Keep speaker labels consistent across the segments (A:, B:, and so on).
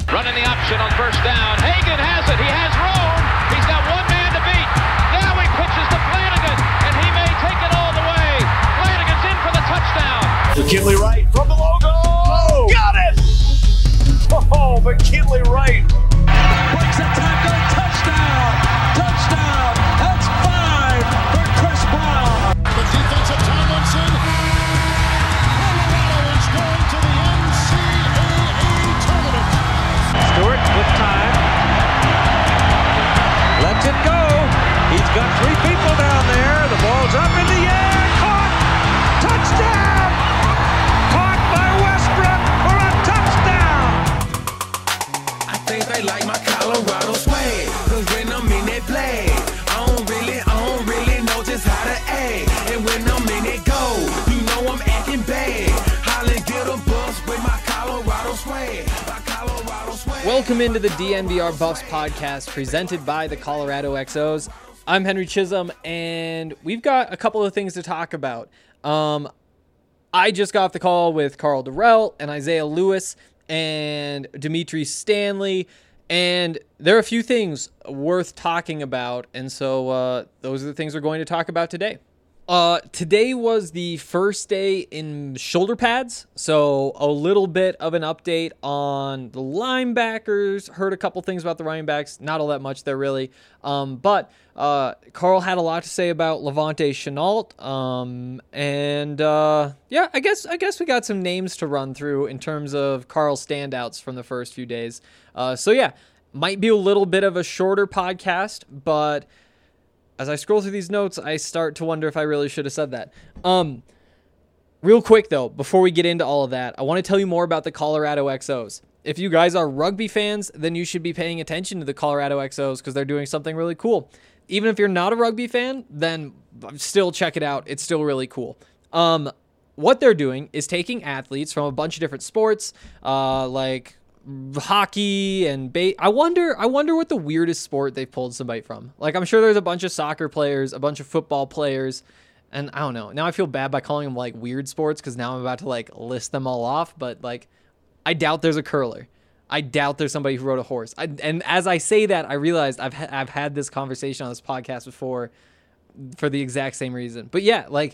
A: Running the option on first down. Hagan has it. He has room. He's got one man to beat. Now he pitches to Flanagan, and he may take it all the way. Flanagan's in for the touchdown.
B: McKinley Wright from the logo. Oh, got it! Oh, McKinley Wright.
C: Breaks a tackle. Touchdown. Touchdown. That's 5 for Chris Brown.
D: The defensive Tomlinson. Colorado is going to the NCAA tournament.
C: Stewart with time. Lets it go. He's got 3 people down there. The ball's up in the air. Caught. Touchdown. Caught by Westbrook for a touchdown.
E: I think they like my Colorado swag. Cause when I'm in that play, I don't really know just how to act. And when I'm in it go, you know I'm acting bad. Holland get a bus with my Colorado swag. My Colorado swag.
F: Welcome into the DNVR Buffs podcast presented by the Colorado XOs. I'm Henry Chisholm, and we've got a couple of things to talk about. I just got off the call with Karl Dorrell and Isaiah Lewis and Dimitri Stanley, and there are a few things worth talking about, and so those are the things we're going to talk about today. Today was the first day in shoulder pads, so a little bit of an update on the linebackers. Heard a couple things about the running backs, not all that much there really, but Karl had a lot to say about Levante Shenault, and yeah, I guess we got some names to run through in terms of Karl's standouts from the first few days. So yeah, might be a little bit of a shorter podcast, but as I scroll through these notes, I start to wonder if I really should have said that. Real quick, though, before we get into all of that, I want to tell you more about the Colorado XOs. If you guys are rugby fans, then you should be paying attention to the Colorado XOs because they're doing something really cool. Even if you're not a rugby fan, then still check it out. It's still really cool. What they're doing is taking athletes from a bunch of different sports, like hockey and I wonder what the weirdest sport they've pulled somebody from. Like, I'm sure there's a bunch of soccer players, a bunch of football players, and I don't know. Now I feel bad by calling them like weird sports because now I'm about to like list them all off, but like I doubt there's a curler. I doubt there's somebody who rode a horse. And as I say that, I realized I've had this conversation on this podcast before for the exact same reason. But yeah, like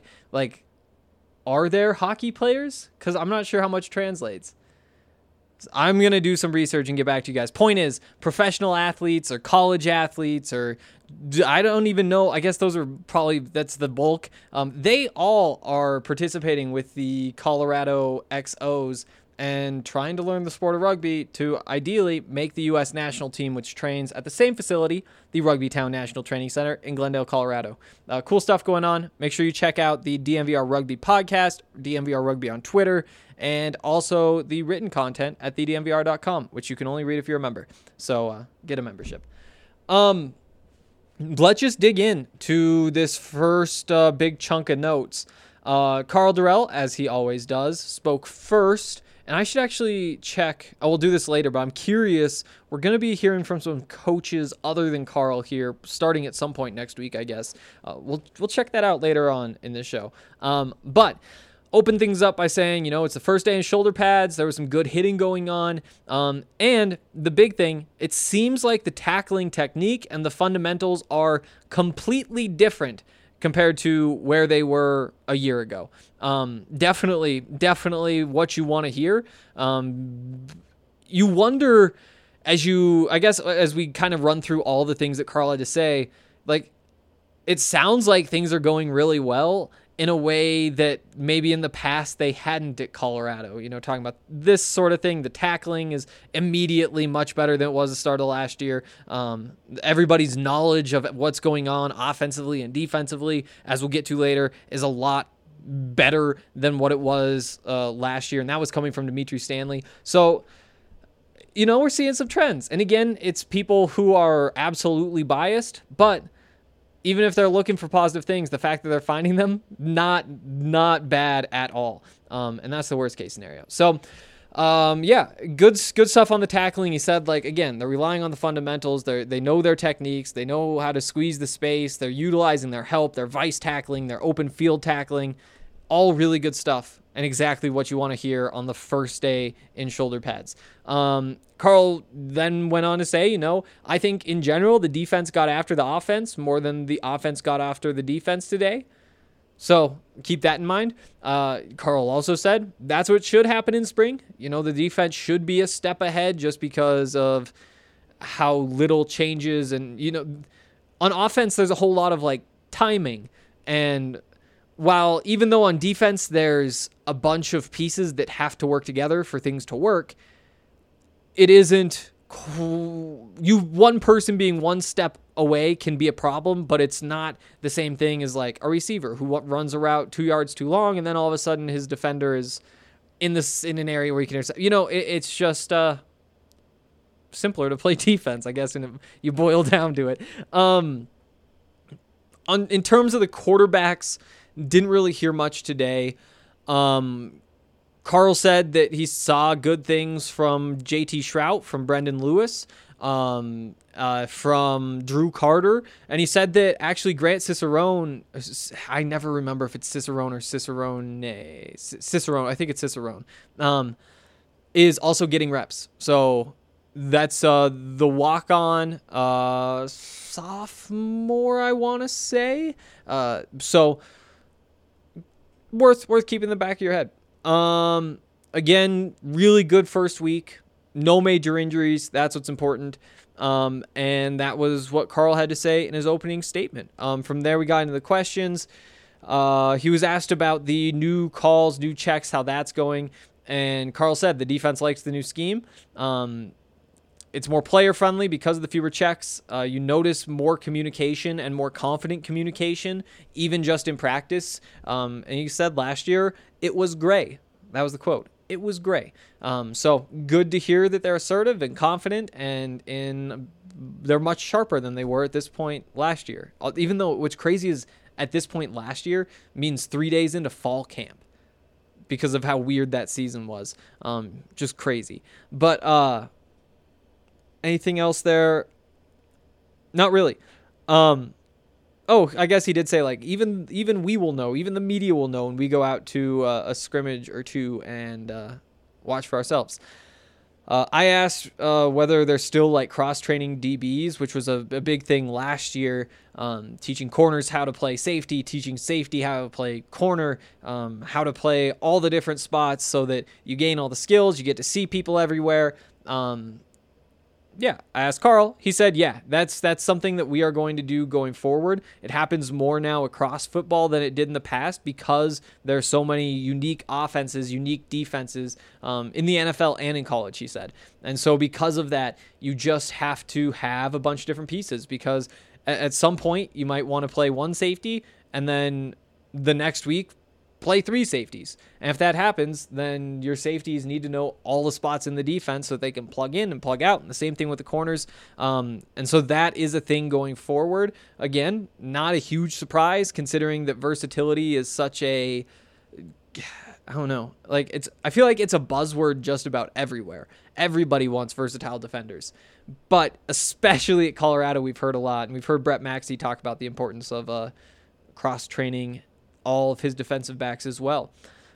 F: are there hockey players? Because I'm not sure how much translates. I'm going to do some research and get back to you guys. Point is, professional athletes or college athletes or I don't even know. I guess those are probably, that's the bulk. They all are participating with the Colorado XOs and trying to learn the sport of rugby to ideally make the U.S. national team, which trains at the same facility, the Rugby Town National Training Center in Glendale, Colorado. Cool stuff going on. Make sure you check out the DNVR Rugby podcast, DNVR Rugby on Twitter, and also the written content at thednvr.com, which you can only read if you're a member. So get a membership. Let's just dig in to this first big chunk of notes. Karl Dorrell, as he always does, spoke first. And I should actually check. I will do this later, but I'm curious. We're going to be hearing from some coaches other than Karl here, starting at some point next week, I guess. We'll check that out later on in this show. But open things up by saying, it's the first day in shoulder pads. There was some good hitting going on. And the big thing, it seems like the tackling technique and the fundamentals are completely different compared to where they were a year ago. Definitely what you want to hear. You wonder as we kind of run through all the things that Karl had to say, like, it sounds like things are going really well in a way that maybe in the past they hadn't at Colorado. Talking about this sort of thing, the tackling is immediately much better than it was at the start of last year. Everybody's knowledge of what's going on offensively and defensively, as we'll get to later, is a lot better than what it was last year, and that was coming from Dimitri Stanley. So, we're seeing some trends. And again, it's people who are absolutely biased, but even if they're looking for positive things, the fact that they're finding them, not bad at all. And that's the worst case scenario. So, yeah, good stuff on the tackling. He said, again, they're relying on the fundamentals. They know their techniques. They know how to squeeze the space. They're utilizing their help, their vice tackling, their open field tackling. All really good stuff. and exactly what you want to hear on the first day in shoulder pads. Carl then went on to say, I think in general, the defense got after the offense more than the offense got after the defense today. So keep that in mind. Carl also said that's what should happen in spring. The defense should be a step ahead just because of how little changes. And, on offense, there's a whole lot of timing. And while even though on defense, there's a bunch of pieces that have to work together for things to work, it isn't one person being one step away can be a problem, but it's not the same thing as a receiver who runs a route 2 yards too long, and then all of a sudden his defender is in an area where he can intercept. It's just simpler to play defense, I guess, and you boil down to it. In terms of the quarterbacks, didn't really hear much today. Carl said that he saw good things from JT Shrout, from Brendan Lewis, from Drew Carter, and he said that actually Grant Cicerone, I never remember if it's Cicerone or Cicerone, I think it's Cicerone, is also getting reps. So that's the walk-on sophomore, I want to say. So worth keeping in the back of your head. Again, really good first week. No major injuries. That's what's important. And that was what Carl had to say in his opening statement. From there, we got into the questions. He was asked about the new calls, new checks, how that's going. And Carl said the defense likes the new scheme. It's more player-friendly because of the fewer checks. You notice more communication and more confident communication, even just in practice. And he said last year, it was gray. That was the quote. It was gray. So good to hear that they're assertive and confident, and they're much sharper than they were at this point last year. Even though what's crazy is at this point last year means 3 days into fall camp because of how weird that season was. Just crazy. But anything else there? Not really. I guess he did say even we will know, even the media will know when we go out to a scrimmage or two and watch for ourselves. I asked whether they're still cross-training DBs, which was a big thing last year, teaching corners how to play safety, teaching safety how to play corner, how to play all the different spots so that you gain all the skills, you get to see people everywhere. Yeah, I asked Carl. He said, yeah, that's something that we are going to do going forward. It happens more now across football than it did in the past because there are so many unique offenses, unique defenses in the NFL and in college, he said. And so because of that, you just have to have a bunch of different pieces because at some point you might want to play one safety and then the next week play three safeties. And if that happens, then your safeties need to know all the spots in the defense so that they can plug in and plug out. And the same thing with the corners. And so that is a thing going forward. Again, not a huge surprise considering that versatility is such a, I don't know, I feel like it's a buzzword just about everywhere. Everybody wants versatile defenders. But especially at Colorado, we've heard a lot. And we've heard Brett Maxey talk about the importance of cross-training all of his defensive backs as well.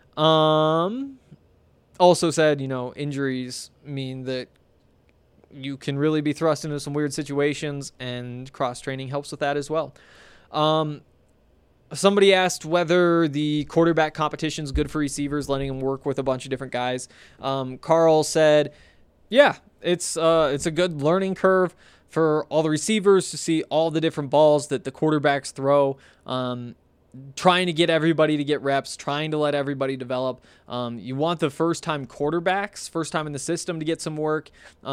F: Also said, injuries mean that you can really be thrust into some weird situations, and cross-training helps with that as well. Somebody asked whether the quarterback competition is good for receivers, letting them work with a bunch of different guys. Carl said, yeah, it's a good learning curve for all the receivers to see all the different balls that the quarterbacks throw. Trying to get everybody to get reps, trying to let everybody develop. You want the first-time quarterbacks, first time in the system to get some work.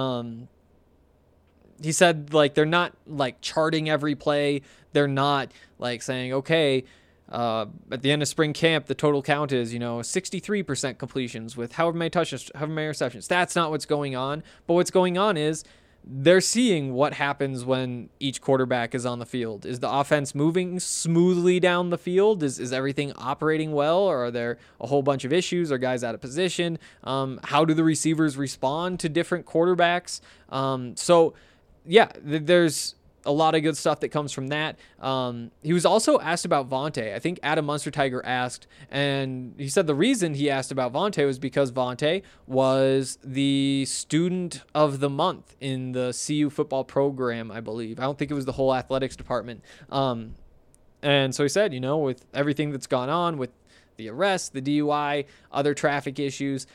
F: He said, they're not, charting every play. They're not, saying, okay, at the end of spring camp, the total count is, 63% completions with however many touches, however many receptions. That's not what's going on. But what's going on is they're seeing what happens when each quarterback is on the field. Is the offense moving smoothly down the field? Is everything operating well? Or are there a whole bunch of issues? Are guys out of position? How do the receivers respond to different quarterbacks? So, yeah, there's a lot of good stuff that comes from that. He was also asked about Vontae. I think Adam Munster Tiger asked, and he said the reason he asked about Vontae was because Vontae was the student of the month in the CU football program, I believe. I don't think it was the whole athletics department. And so he said, with everything that's gone on with the arrest, the DUI, other traffic issues,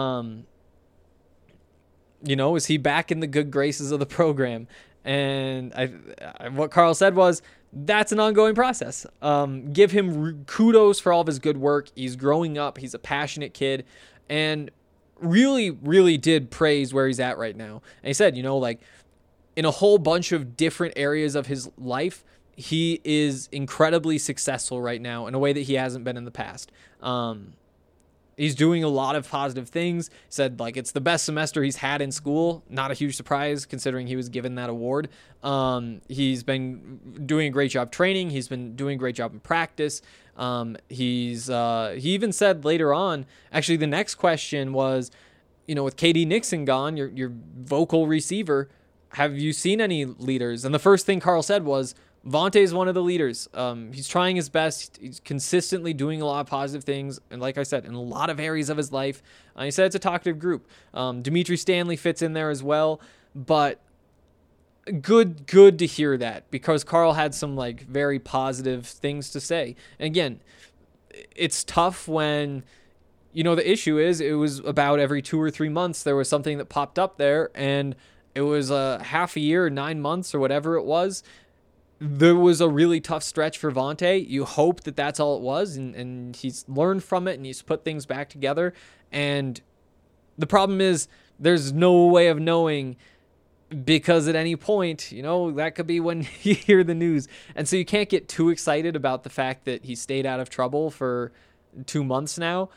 F: is he back in the good graces of the program? And what Carl said was, that's an ongoing process. Give him kudos for all of his good work. He's growing up. He's a passionate kid, and really, really did praise where he's at right now. And he said, in a whole bunch of different areas of his life, he is incredibly successful right now in a way that he hasn't been in the past. He's doing a lot of positive things. He said, it's the best semester he's had in school. Not a huge surprise considering he was given that award. He's been doing a great job training. He's been doing a great job in practice. He even said later on, actually the next question was, with KD Nixon gone, your vocal receiver, have you seen any leaders? And the first thing Carl said was, Vontae is one of the leaders. He's trying his best. He's consistently doing a lot of positive things. And like I said, in a lot of areas of his life, he said it's a talkative group. Dimitri Stanley fits in there as well. But good to hear that, because Carl had some very positive things to say. And again, it's tough when, the issue is it was about every 2 or 3 months there was something that popped up there, and it was a half a year, 9 months or whatever it was. There was a really tough stretch for Vontae. You hope that that's all it was, and he's learned from it, and he's put things back together. And the problem is there's no way of knowing, because at any point, that could be when you hear the news. And so you can't get too excited about the fact that he stayed out of trouble for 2 months now.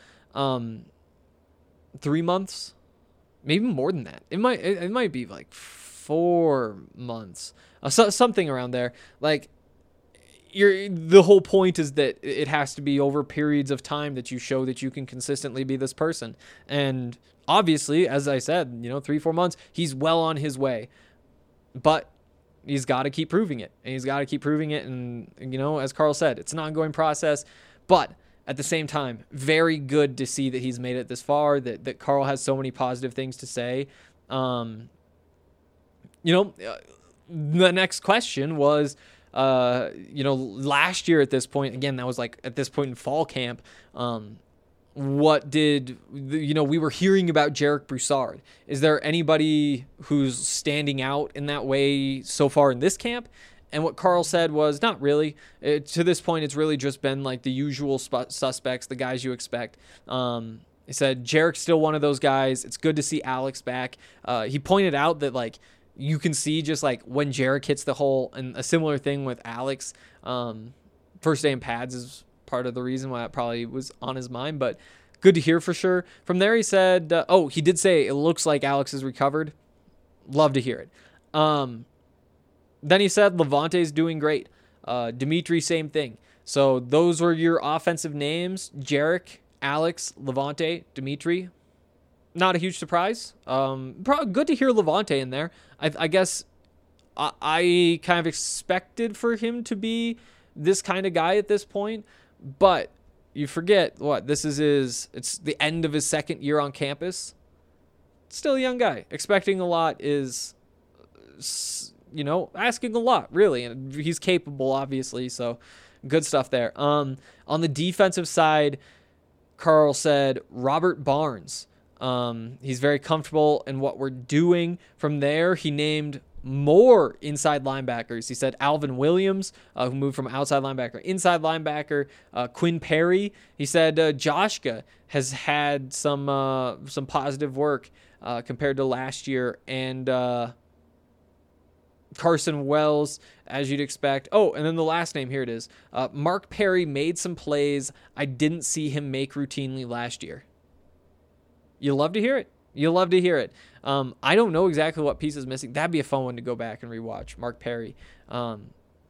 F: 3 months, maybe more than that. It might be 4 months. Something around there. The whole point is that it has to be over periods of time that you show that you can consistently be this person. And obviously, as I said, 3-4 months, he's well on his way. But he's got to keep proving it. And he's got to keep proving it. And, as Carl said, it's an ongoing process. But at the same time, very good to see that he's made it this far, that Carl has so many positive things to say. The next question was, last year at this point, again, that was at this point in fall camp, what did, we were hearing about Jarek Broussard. Is there anybody who's standing out in that way so far in this camp? And what Carl said was, not really. To this point, it's really just been the usual suspects, the guys you expect. He said, Jarek's still one of those guys. It's good to see Alex back. He pointed out that, you can see just when Jarek hits the hole, and a similar thing with Alex. First day in pads is part of the reason why it probably was on his mind, but good to hear for sure. From there, he said, he did say it looks like Alex is recovered. Love to hear it. Then he said Levante's doing great. Dimitri, same thing. So those were your offensive names: Jarek, Alex, Levante, Dimitri. Not a huge surprise. Probably good to hear Levante in there. I guess I kind of expected for him to be this kind of guy at this point, but you forget this is it's the end of his second year on campus. Still a young guy. Expecting a lot is, asking a lot, really, and he's capable, obviously, so good stuff there. On the defensive side, Carl said Robert Barnes. He's very comfortable in what we're doing. From there, he named more inside linebackers. He said Alvin Williams, who moved from outside linebacker, inside linebacker. Quinn Perry. He said Joshka has had some positive work compared to last year, and Carson Wells, as you'd expect. Oh, and then the last name, here it is. Mark Perry made some plays I didn't see him make routinely last year. You love to hear it. You'll love to hear it. I don't know exactly what piece is missing. That'd be a fun one to go back and rewatch, Mark Perry. But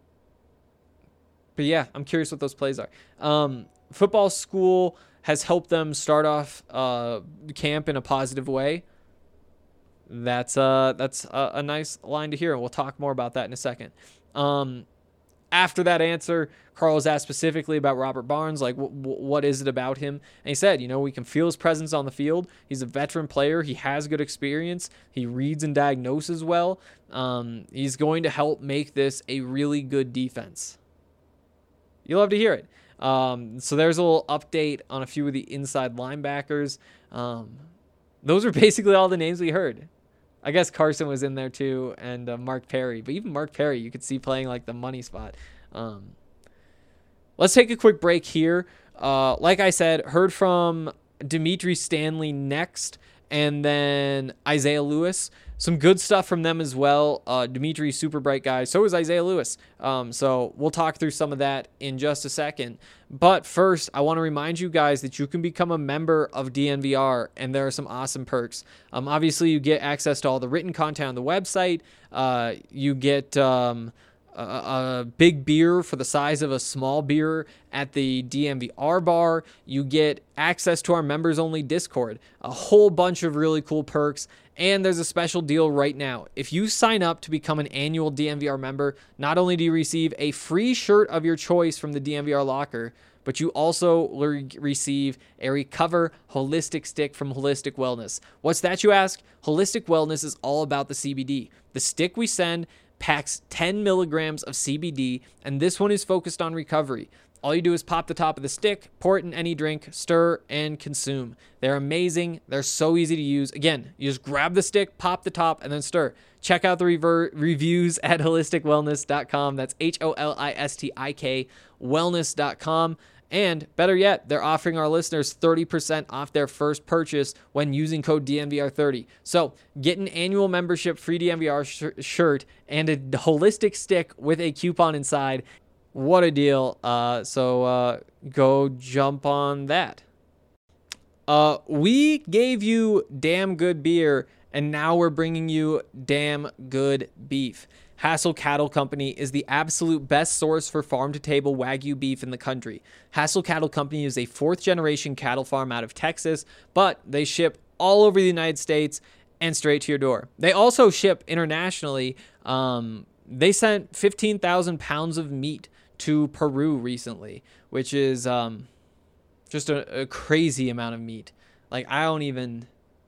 F: yeah, I'm curious what those plays are. Football school has helped them start off camp in a positive way. That's a nice line to hear, and we'll talk more about that in a second. After that answer, Carl was asked specifically about Robert Barnes, like what is it about him? And he said, we can feel his presence on the field. He's a veteran player. He has good experience. He reads and diagnoses well. He's going to help make this a really good defense. You'll love to hear it. So there's a little update on a few of the inside linebackers. Those are basically all the names we heard. I guess Carson was in there too, and Mark Perry. But even Mark Perry, you could see playing like the money spot. Let's take a quick break here. Like I said, heard from Dimitri Stanley next, and then Isaiah Lewis. Some good stuff from them as well. Dimitri, super bright guy. So is Isaiah Lewis. So we'll talk through some of that in just a second. But first, I want to remind you guys that you can become a member of DNVR, and there are some awesome perks. Obviously, you get access to all the written content on the website. You get a big beer for the size of a small beer at the DNVR bar. You get access to our members-only Discord. A whole bunch of really cool perks. And there's a special deal right now. If you sign up to become an annual DNVR member, not only do you receive a free shirt of your choice from the DNVR locker, but you also receive a Recover Holistic Stick from Holistic Wellness. What's that, you ask? Holistic Wellness is all about the CBD. The stick we send packs 10 milligrams of CBD, and this one is focused on recovery. All you do is pop the top of the stick, pour it in any drink, stir, and consume. They're amazing. They're so easy to use. Again, you just grab the stick, pop the top, and then stir. Check out the reviews at holisticwellness.com. That's HOLISTIK wellness.com. And better yet, they're offering our listeners 30% off their first purchase when using code DNVR30. So get an annual membership, free DNVR shirt, and a holistic stick with a coupon inside. What a deal. So go jump on that. We gave you damn good beer, and now we're bringing you damn good beef. Hassel Cattle Company is the absolute best source for farm-to-table Wagyu beef in the country. Hassel Cattle Company is a fourth-generation cattle farm out of Texas, but they ship all over the United States and straight to your door. They also ship internationally. They sent 15,000 pounds of meat to Peru recently, which is just a crazy amount of meat. Like, I don't even...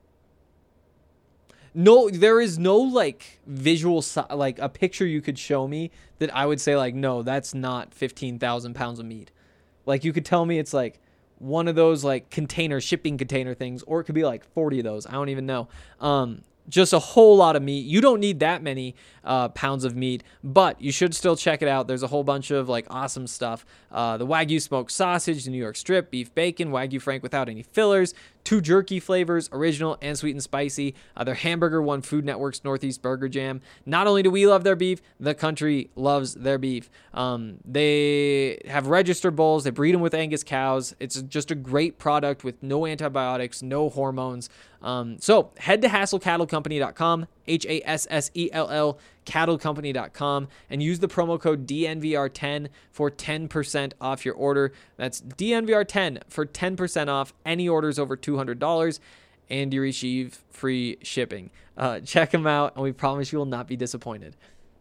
F: No, there is no, like, visual, like, a picture you could show me that I would say, like, no, that's not 15,000 pounds of meat. Like, you could tell me it's, like, one of those, like, shipping container things, or it could be, like, 40 of those. I don't even know. Just a whole lot of meat. You don't need that many pounds of meat, but you should still check it out. There's a whole bunch of like awesome stuff. The Wagyu smoked sausage, the New York strip, beef bacon, Wagyu Frank without any fillers, 2 jerky flavors, original and sweet and spicy. Their hamburger won Food Network's Northeast Burger Jam. Not only do we love their beef, the country loves their beef. They have registered bulls. They breed them with Angus cows. It's just a great product with no antibiotics, no hormones. So head to hassellcattlecompany.com, HASSELL cattlecompany.com, and use the promo code DNVR10 for 10% off your order. That's DNVR10 for 10% off any orders over $200, and you receive free shipping. Check them out, and we promise you will not be disappointed.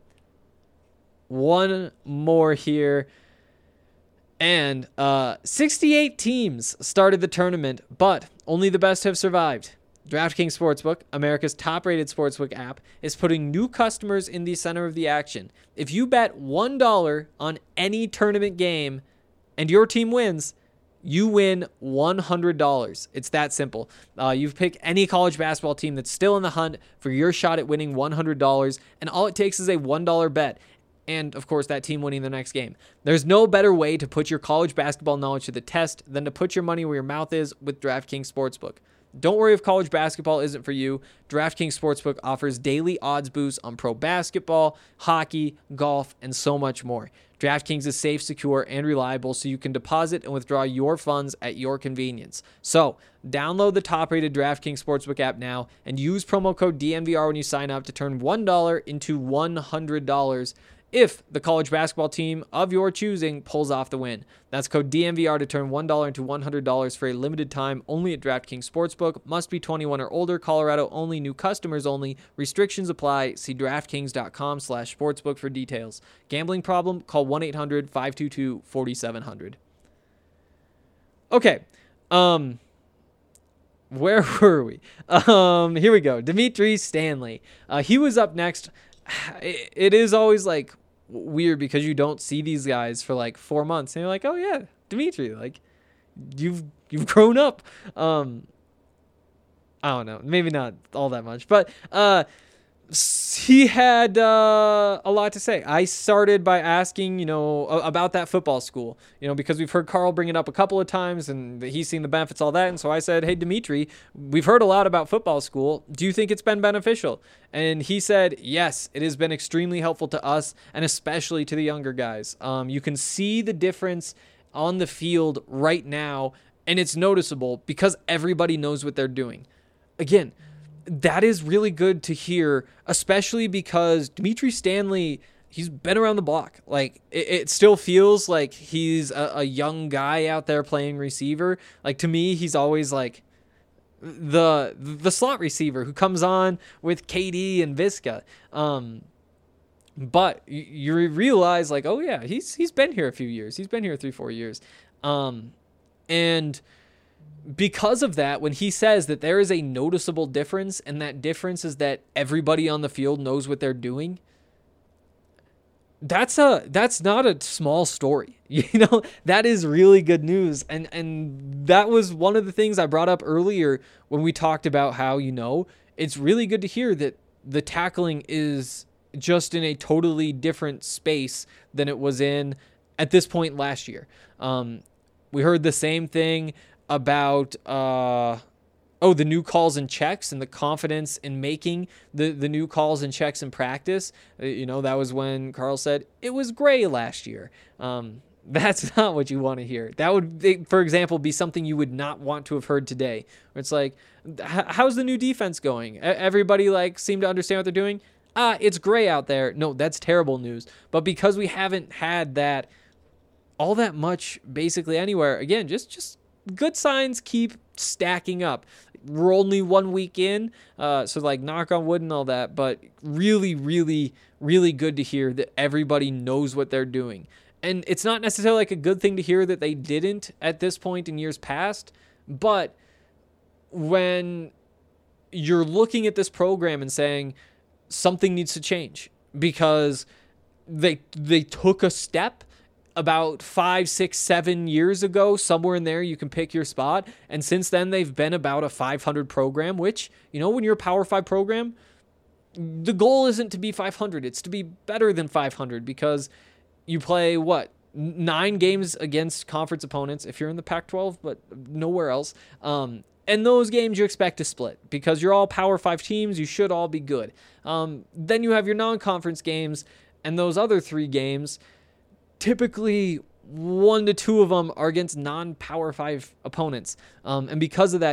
F: One more here. And 68 teams started the tournament, but only the best have survived. DraftKings Sportsbook, America's top-rated sportsbook app, is putting new customers in the center of the action. If you bet $1 on any tournament game and your team wins, you win $100. It's that simple. You pick any college basketball team that's still in the hunt for your shot at winning $100, and all it takes is a $1 bet. And, of course, that team winning the next game. There's no better way to put your college basketball knowledge to the test than to put your money where your mouth is with DraftKings Sportsbook. Don't worry if college basketball isn't for you. DraftKings Sportsbook offers daily odds boosts on pro basketball, hockey, golf, and so much more. DraftKings is safe, secure, and reliable, so you can deposit and withdraw your funds at your convenience. So, download the top-rated DraftKings Sportsbook app now and use promo code DNVR when you sign up to turn $1 into $100 if the college basketball team of your choosing pulls off the win. That's code DNVR to turn $1 into $100 for a limited time only at DraftKings Sportsbook. Must be 21 or older. Colorado only. New customers only. Restrictions apply. See DraftKings.com/sportsbook for details. Gambling problem? Call 1-800-522-4700. Okay. Where were we? Here we go. Dimitri Stanley. He was up next. It is always like weird because you don't see these guys for like 4 months and you're like, oh yeah, Dimitri, like you've grown up. I don't know, maybe not all that much, but he had a lot to say. I started by asking, about that football school, because we've heard Carl bring it up a couple of times and he's seen the benefits, all that. And so I said, hey, Dimitri, we've heard a lot about football school. Do you think it's been beneficial? And he said, yes, it has been extremely helpful to us and especially to the younger guys. You can see the difference on the field right now, and it's noticeable because everybody knows what they're doing. Again, that is really good to hear, especially because Dimitri Stanley, he's been around the block. Like it still feels like he's a young guy out there playing receiver. Like to me, he's always like the slot receiver who comes on with KD and Visca. But you realize like, oh yeah, he's been here a few years. He's been here 3-4 years. And because of that, when he says that there is a noticeable difference, and that difference is that everybody on the field knows what they're doing, that's not a small story. That is really good news. And that was one of the things I brought up earlier when we talked about how, it's really good to hear that the tackling is just in a totally different space than it was in at this point last year. We heard the same thing about the new calls and checks and the confidence in making the new calls and checks in practice. That was when Carl said it was gray last year. That's not what you want to hear. That would, for example, be something you would not want to have heard today. Where it's like, how's the new defense going? Everybody seem to understand what they're doing. It's gray out there. No, that's terrible news. But because we haven't had that all that much basically anywhere, again, just good signs keep stacking up. We're only 1 week in, so knock on wood and all that, but really, really, really good to hear that everybody knows what they're doing. And it's not necessarily a good thing to hear that they didn't at this point in years past, but when you're looking at this program and saying something needs to change because they took a step about 5, 6, 7 years ago, somewhere in there, you can pick your spot. And since then, they've been about a 500 program, which, when you're a Power 5 program, the goal isn't to be 500. It's to be better than 500 because you play, 9 games against conference opponents if you're in the Pac-12, but nowhere else. And those games you expect to split because you're all Power 5 teams. You should all be good. Then you have your non-conference games, and those other 3 games, typically 1 to 2 of them are against non-Power 5 opponents. And because of that,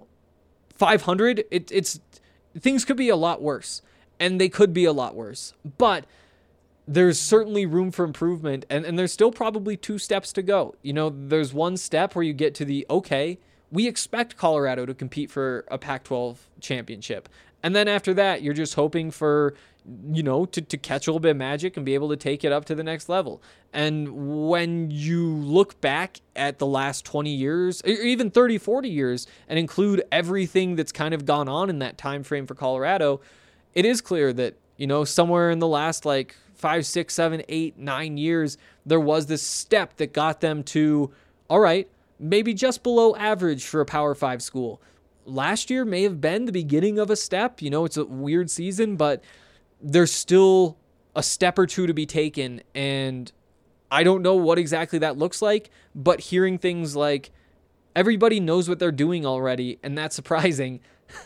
F: 500, it's things could be a lot worse, and they could be a lot worse. But there's certainly room for improvement, and there's still probably 2 steps to go. There's one step where you get to the, okay, we expect Colorado to compete for a Pac-12 championship. And then after that, you're just hoping for, to catch a little bit of magic and be able to take it up to the next level. And when you look back at the last 20 years, or even 30, 40 years, and include everything that's kind of gone on in that time frame for Colorado, it is clear that, somewhere in the last 5, 6, 7, 8, 9 years, there was this step that got them to, all right, maybe just below average for a Power 5 school. Last year may have been the beginning of a step. It's a weird season, but there's still a step or 2 to be taken. And I don't know what exactly that looks like, but hearing things like everybody knows what they're doing already, and that's surprising.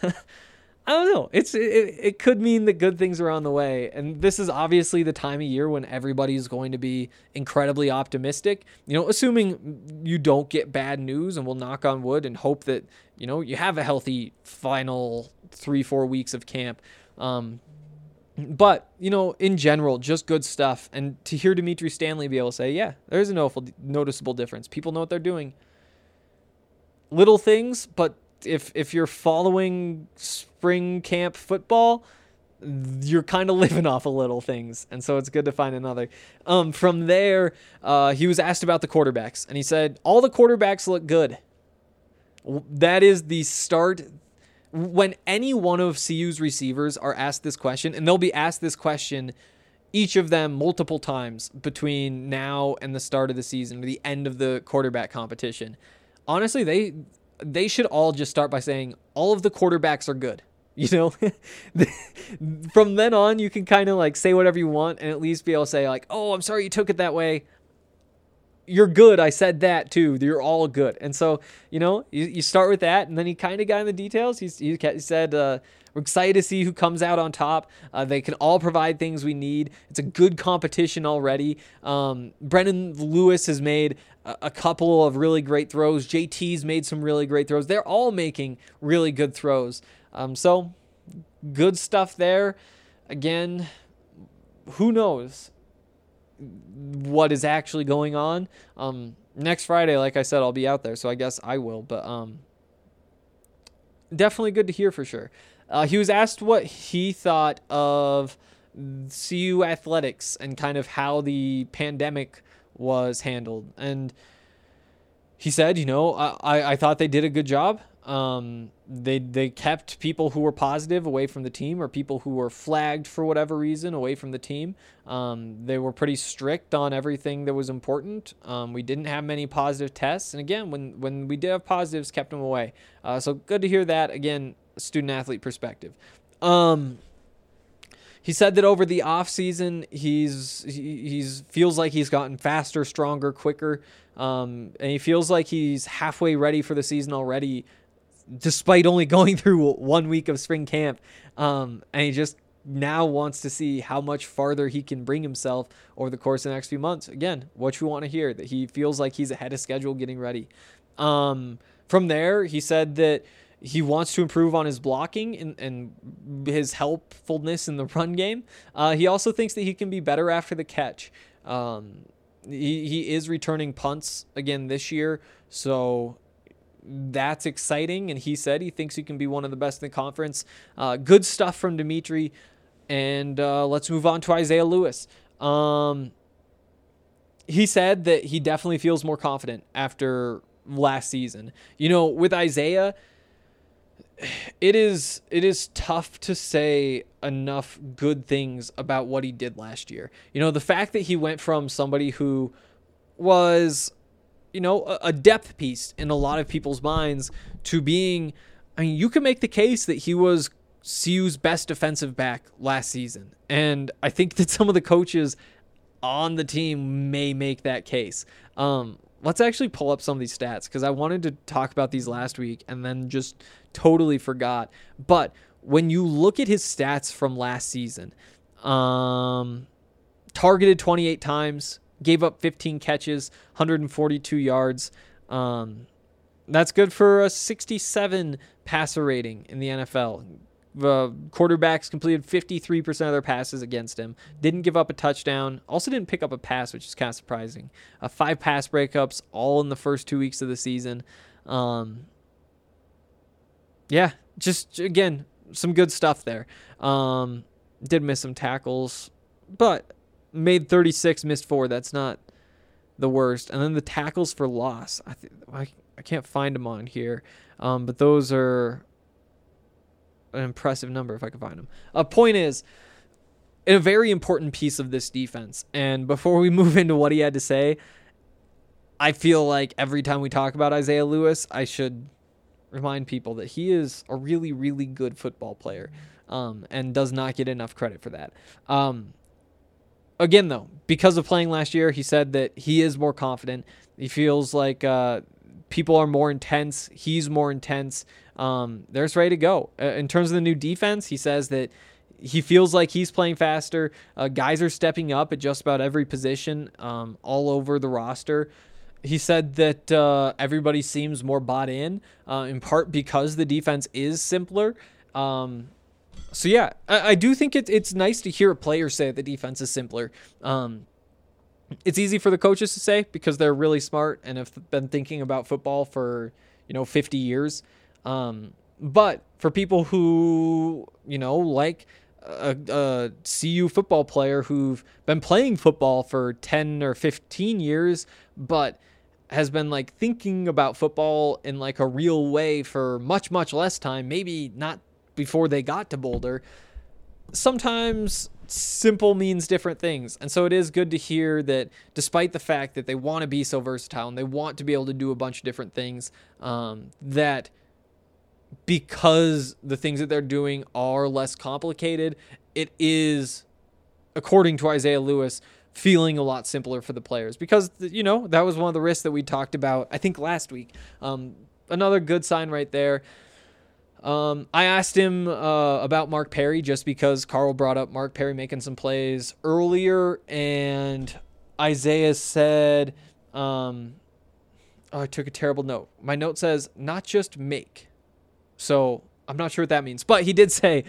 F: I don't know. It could mean that good things are on the way. And this is obviously the time of year when everybody's going to be incredibly optimistic, assuming you don't get bad news, and we'll knock on wood and hope that, you have a healthy final 3-4 weeks of camp. But, in general, just good stuff. And to hear Dimitri Stanley be able to say, yeah, there's a noticeable difference. People know what they're doing. Little things, but if you're following spring camp football, you're kind of living off of little things. And so it's good to find another. From there, he was asked about the quarterbacks. And he said, all the quarterbacks look good. That is the start. When any one of CU's receivers are asked this question, and they'll be asked this question, each of them multiple times between now and the start of the season, or the end of the quarterback competition. Honestly, they should all just start by saying all of the quarterbacks are good. From then on, you can kind of like say whatever you want and at least be able to say like, oh, I'm sorry you took it that way. You're good. I said that too. You're all good. And so, you start with that, and then he kind of got in the details. He said, we're excited to see who comes out on top. They can all provide things we need. It's a good competition already. Brendan Lewis has made a couple of really great throws. JT's made some really great throws. They're all making really good throws. So good stuff there. Again, who knows what is actually going on. Next Friday, like I said, I'll be out there, so I guess I will, but definitely good to hear for sure. He was asked what he thought of CU athletics and kind of how the pandemic was handled, and he said, I thought they did a good job. They kept people who were positive away from the team, or people who were flagged for whatever reason away from the team. They were pretty strict on everything that was important. We didn't have many positive tests. And again, when we did have positives, kept them away. So good to hear that. Again, student athlete perspective. He said that over the off season, he's feels like he's gotten faster, stronger, quicker. And he feels like he's halfway ready for the season already, despite only going through 1 week of spring camp. And he just now wants to see how much farther he can bring himself over the course of the next few months. Again, what you want to hear, that he feels like he's ahead of schedule getting ready. From there, he said that he wants to improve on his blocking and his helpfulness in the run game. He also thinks that he can be better after the catch. He is returning punts again this year, so that's exciting, and he said he thinks he can be one of the best in the conference. Good stuff from Dimitri, and let's move on to Isaiah Lewis. He said that he definitely feels more confident after last season. With Isaiah, it is tough to say enough good things about what he did last year. The fact that he went from somebody who was a depth piece in a lot of people's minds to being, you can make the case that he was CU's best defensive back last season. And I think that some of the coaches on the team may make that case. Let's actually pull up some of these stats, because I wanted to talk about these last week and then just totally forgot. But when you look at his stats from last season, targeted 28 times, gave up 15 catches, 142 yards. That's good for a 67 passer rating in the NFL. The quarterbacks completed 53% of their passes against him. Didn't give up a touchdown. Also didn't pick up a pass, which is kind of surprising. 5 pass breakups, all in the first 2 weeks of the season. Just, again, some good stuff there. Did miss some tackles, but made 36, missed 4. That's not the worst. And then the tackles for loss. I can't find them on here, but those are an impressive number if I can find them. Point is, a very important piece of this defense. And before we move into what he had to say, I feel like every time we talk about Isaiah Lewis, I should remind people that he is a really, really good football player, and does not get enough credit for that. Again, though, because of playing last year, he said that he is more confident. He feels like people are more intense. He's more intense. They're ready to go. In terms of the new defense, he says that he feels like he's playing faster. Guys are stepping up at just about every position, all over the roster. He said that everybody seems more bought in part because the defense is simpler. So yeah, I do think it's nice to hear a player say the defense is simpler. It's easy for the coaches to say because they're really smart and have been thinking about football for 50 years. But for people who like a CU football player who've been playing football for 10 or 15 years, but has been like thinking about football in like a real way for much, much less time, maybe not before they got to Boulder, sometimes simple means different things. And so it is good to hear that despite the fact that they want to be so versatile and they want to be able to do a bunch of different things, that because the things that they're doing are less complicated, it is, according to Isaiah Lewis, feeling a lot simpler for the players because, that was one of the risks that we talked about, I think, last week. Another good sign right there. I asked him about Mark Perry just because Carl brought up Mark Perry making some plays earlier, and Isaiah said, I took a terrible note. My note says, not just make. So I'm not sure what that means, but he did say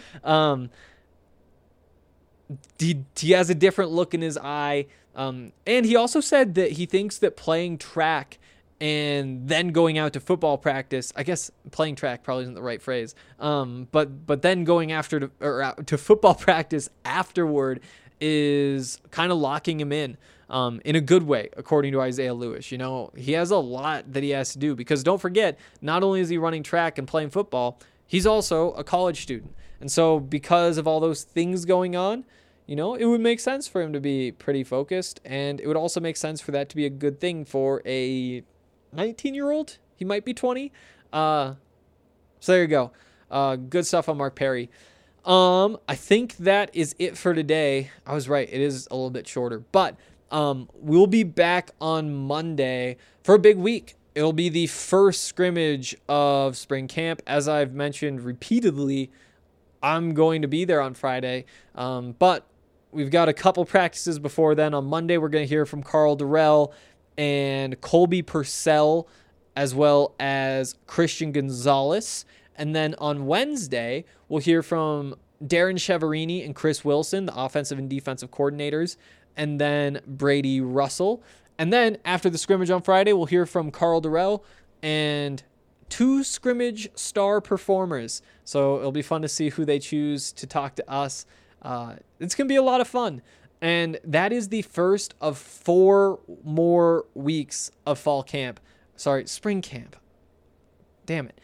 F: he has a different look in his eye. And he also said that he thinks that playing track and then going out to football practice, I guess playing track probably isn't the right phrase, but then going out to football practice afterward is kind of locking him in a good way, according to Isaiah Lewis. He has a lot that he has to do because don't forget, not only is he running track and playing football, he's also a college student. And so because of all those things going on, it would make sense for him to be pretty focused, and it would also make sense for that to be a good thing for a 19-year-old. He might be 20. So there you go. Good stuff on Mark Perry. I think that is it for today. I was right. It is a little bit shorter, but we'll be back on Monday for a big week. It'll be the first scrimmage of spring camp. As I've mentioned repeatedly, I'm going to be there on Friday, but we've got a couple practices before then. On Monday, we're going to hear from Carl Durrell and Colby Purcell, as well as Christian Gonzalez. And then on Wednesday, we'll hear from Darren Cheverini and Chris Wilson, the offensive and defensive coordinators, and then Brady Russell. And then after the scrimmage on Friday, we'll hear from Carl Durrell and 2 scrimmage star performers. So it'll be fun to see who they choose to talk to us. It's going to be a lot of fun. And that is the first of 4 more weeks of fall camp. Sorry, spring camp. Damn it.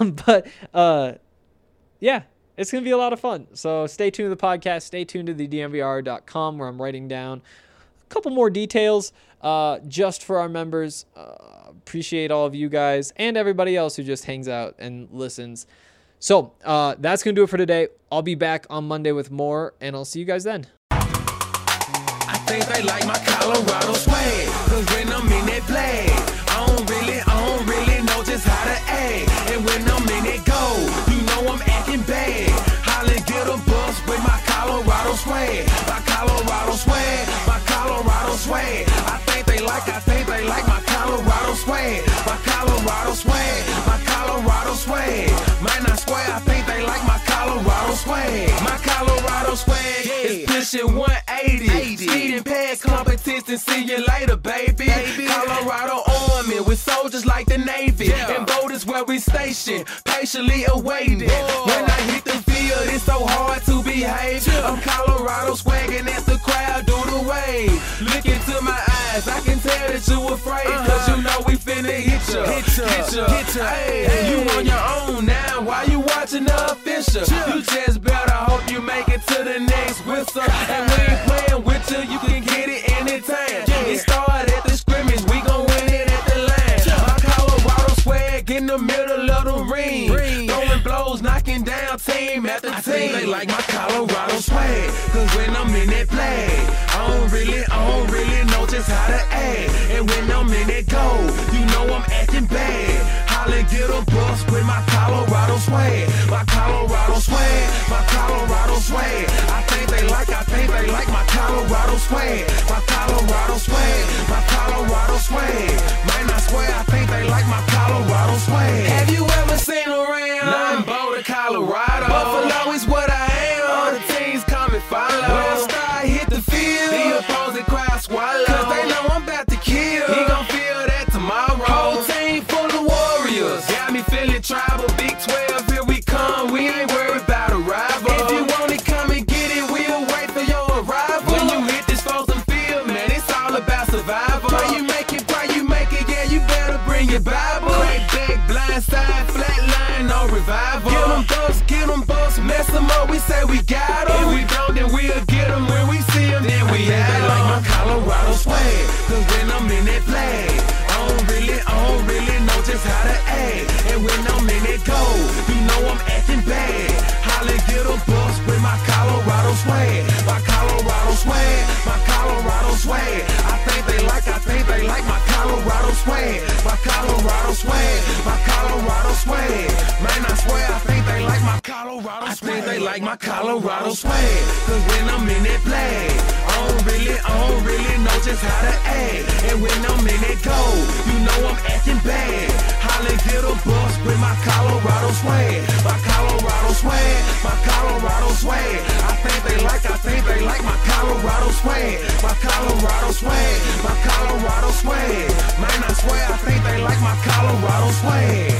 F: Yeah, it's going to be a lot of fun. So stay tuned to the podcast. Stay tuned to the DNVR.com where I'm writing down a couple more details just for our members. Appreciate all of you guys and everybody else who just hangs out and listens. So that's going to do it for today. I'll be back on Monday with more, and I'll see you guys then.
E: I think they like my Colorado swag, cause when I'm in that play, I don't really know just how to act. And when I'm in that go, I'm acting bad. Holly get a bus with my Colorado swag. My Colorado swag, my Colorado swag. I think they like my Colorado swag. My Colorado swag, my Colorado swag. Might not swear, I think they like my Colorado swag. My Colorado swag is pushing 180. Speeding past competition, see you later, baby. Colorado Army with soldiers like the Navy. And boat is where we station, patiently awaiting. When I hit the field, it's so hard to behave. I'm Colorado swagging as the crowd do the wave. Look into my eyes, I can tell that you afraid. Cause you know we finna hit ya. Hey, you on your own now, why you watching the official? You just better hope you make it to the next whistle. And we ain't playing with you can get it anytime. It started at the scrimmage, we gon' win it at the line. My Colorado swag in the middle of the ring. Throwing blows, knocking down team after team. I think they like my Colorado swag, cause when I'm in that play, I don't really know just how to act. And when I'm in that go, I'm acting bad. Holly get a bus with my Colorado swag. My Colorado swag, my Colorado swag. I think they like my Colorado swag. My Colorado swag, my Colorado swag. Might not swear, I think they like my Colorado swag. Have you ever seen around? I'm Boulder, Colorado. Buffalo is what I am. survival. Get them bucks, mess them up, we say we got them. If we don't, then we'll get them when we see them, then we have them. They like my Colorado swag, cause when I'm in that flag, I don't really know just how to act. And when I'm in that gold, you know I'm acting bad. Holly get a bus with my Colorado swag. My Colorado swag, my Colorado swag. I think they like my Colorado swag. My Colorado swag, my Colorado swag. Man, I swear I think they like my Colorado swag. I think they like my Colorado swag. Cause when I'm in that flag, I don't really know just how to act. And when I'm in that gold, you know I'm acting bad. Holly get a bus with my Colorado swag. My Colorado swag, my Colorado swag. I think they like my Colorado swag. My Colorado swag, my Colorado swag. Man, I swear I think they like my Colorado swag.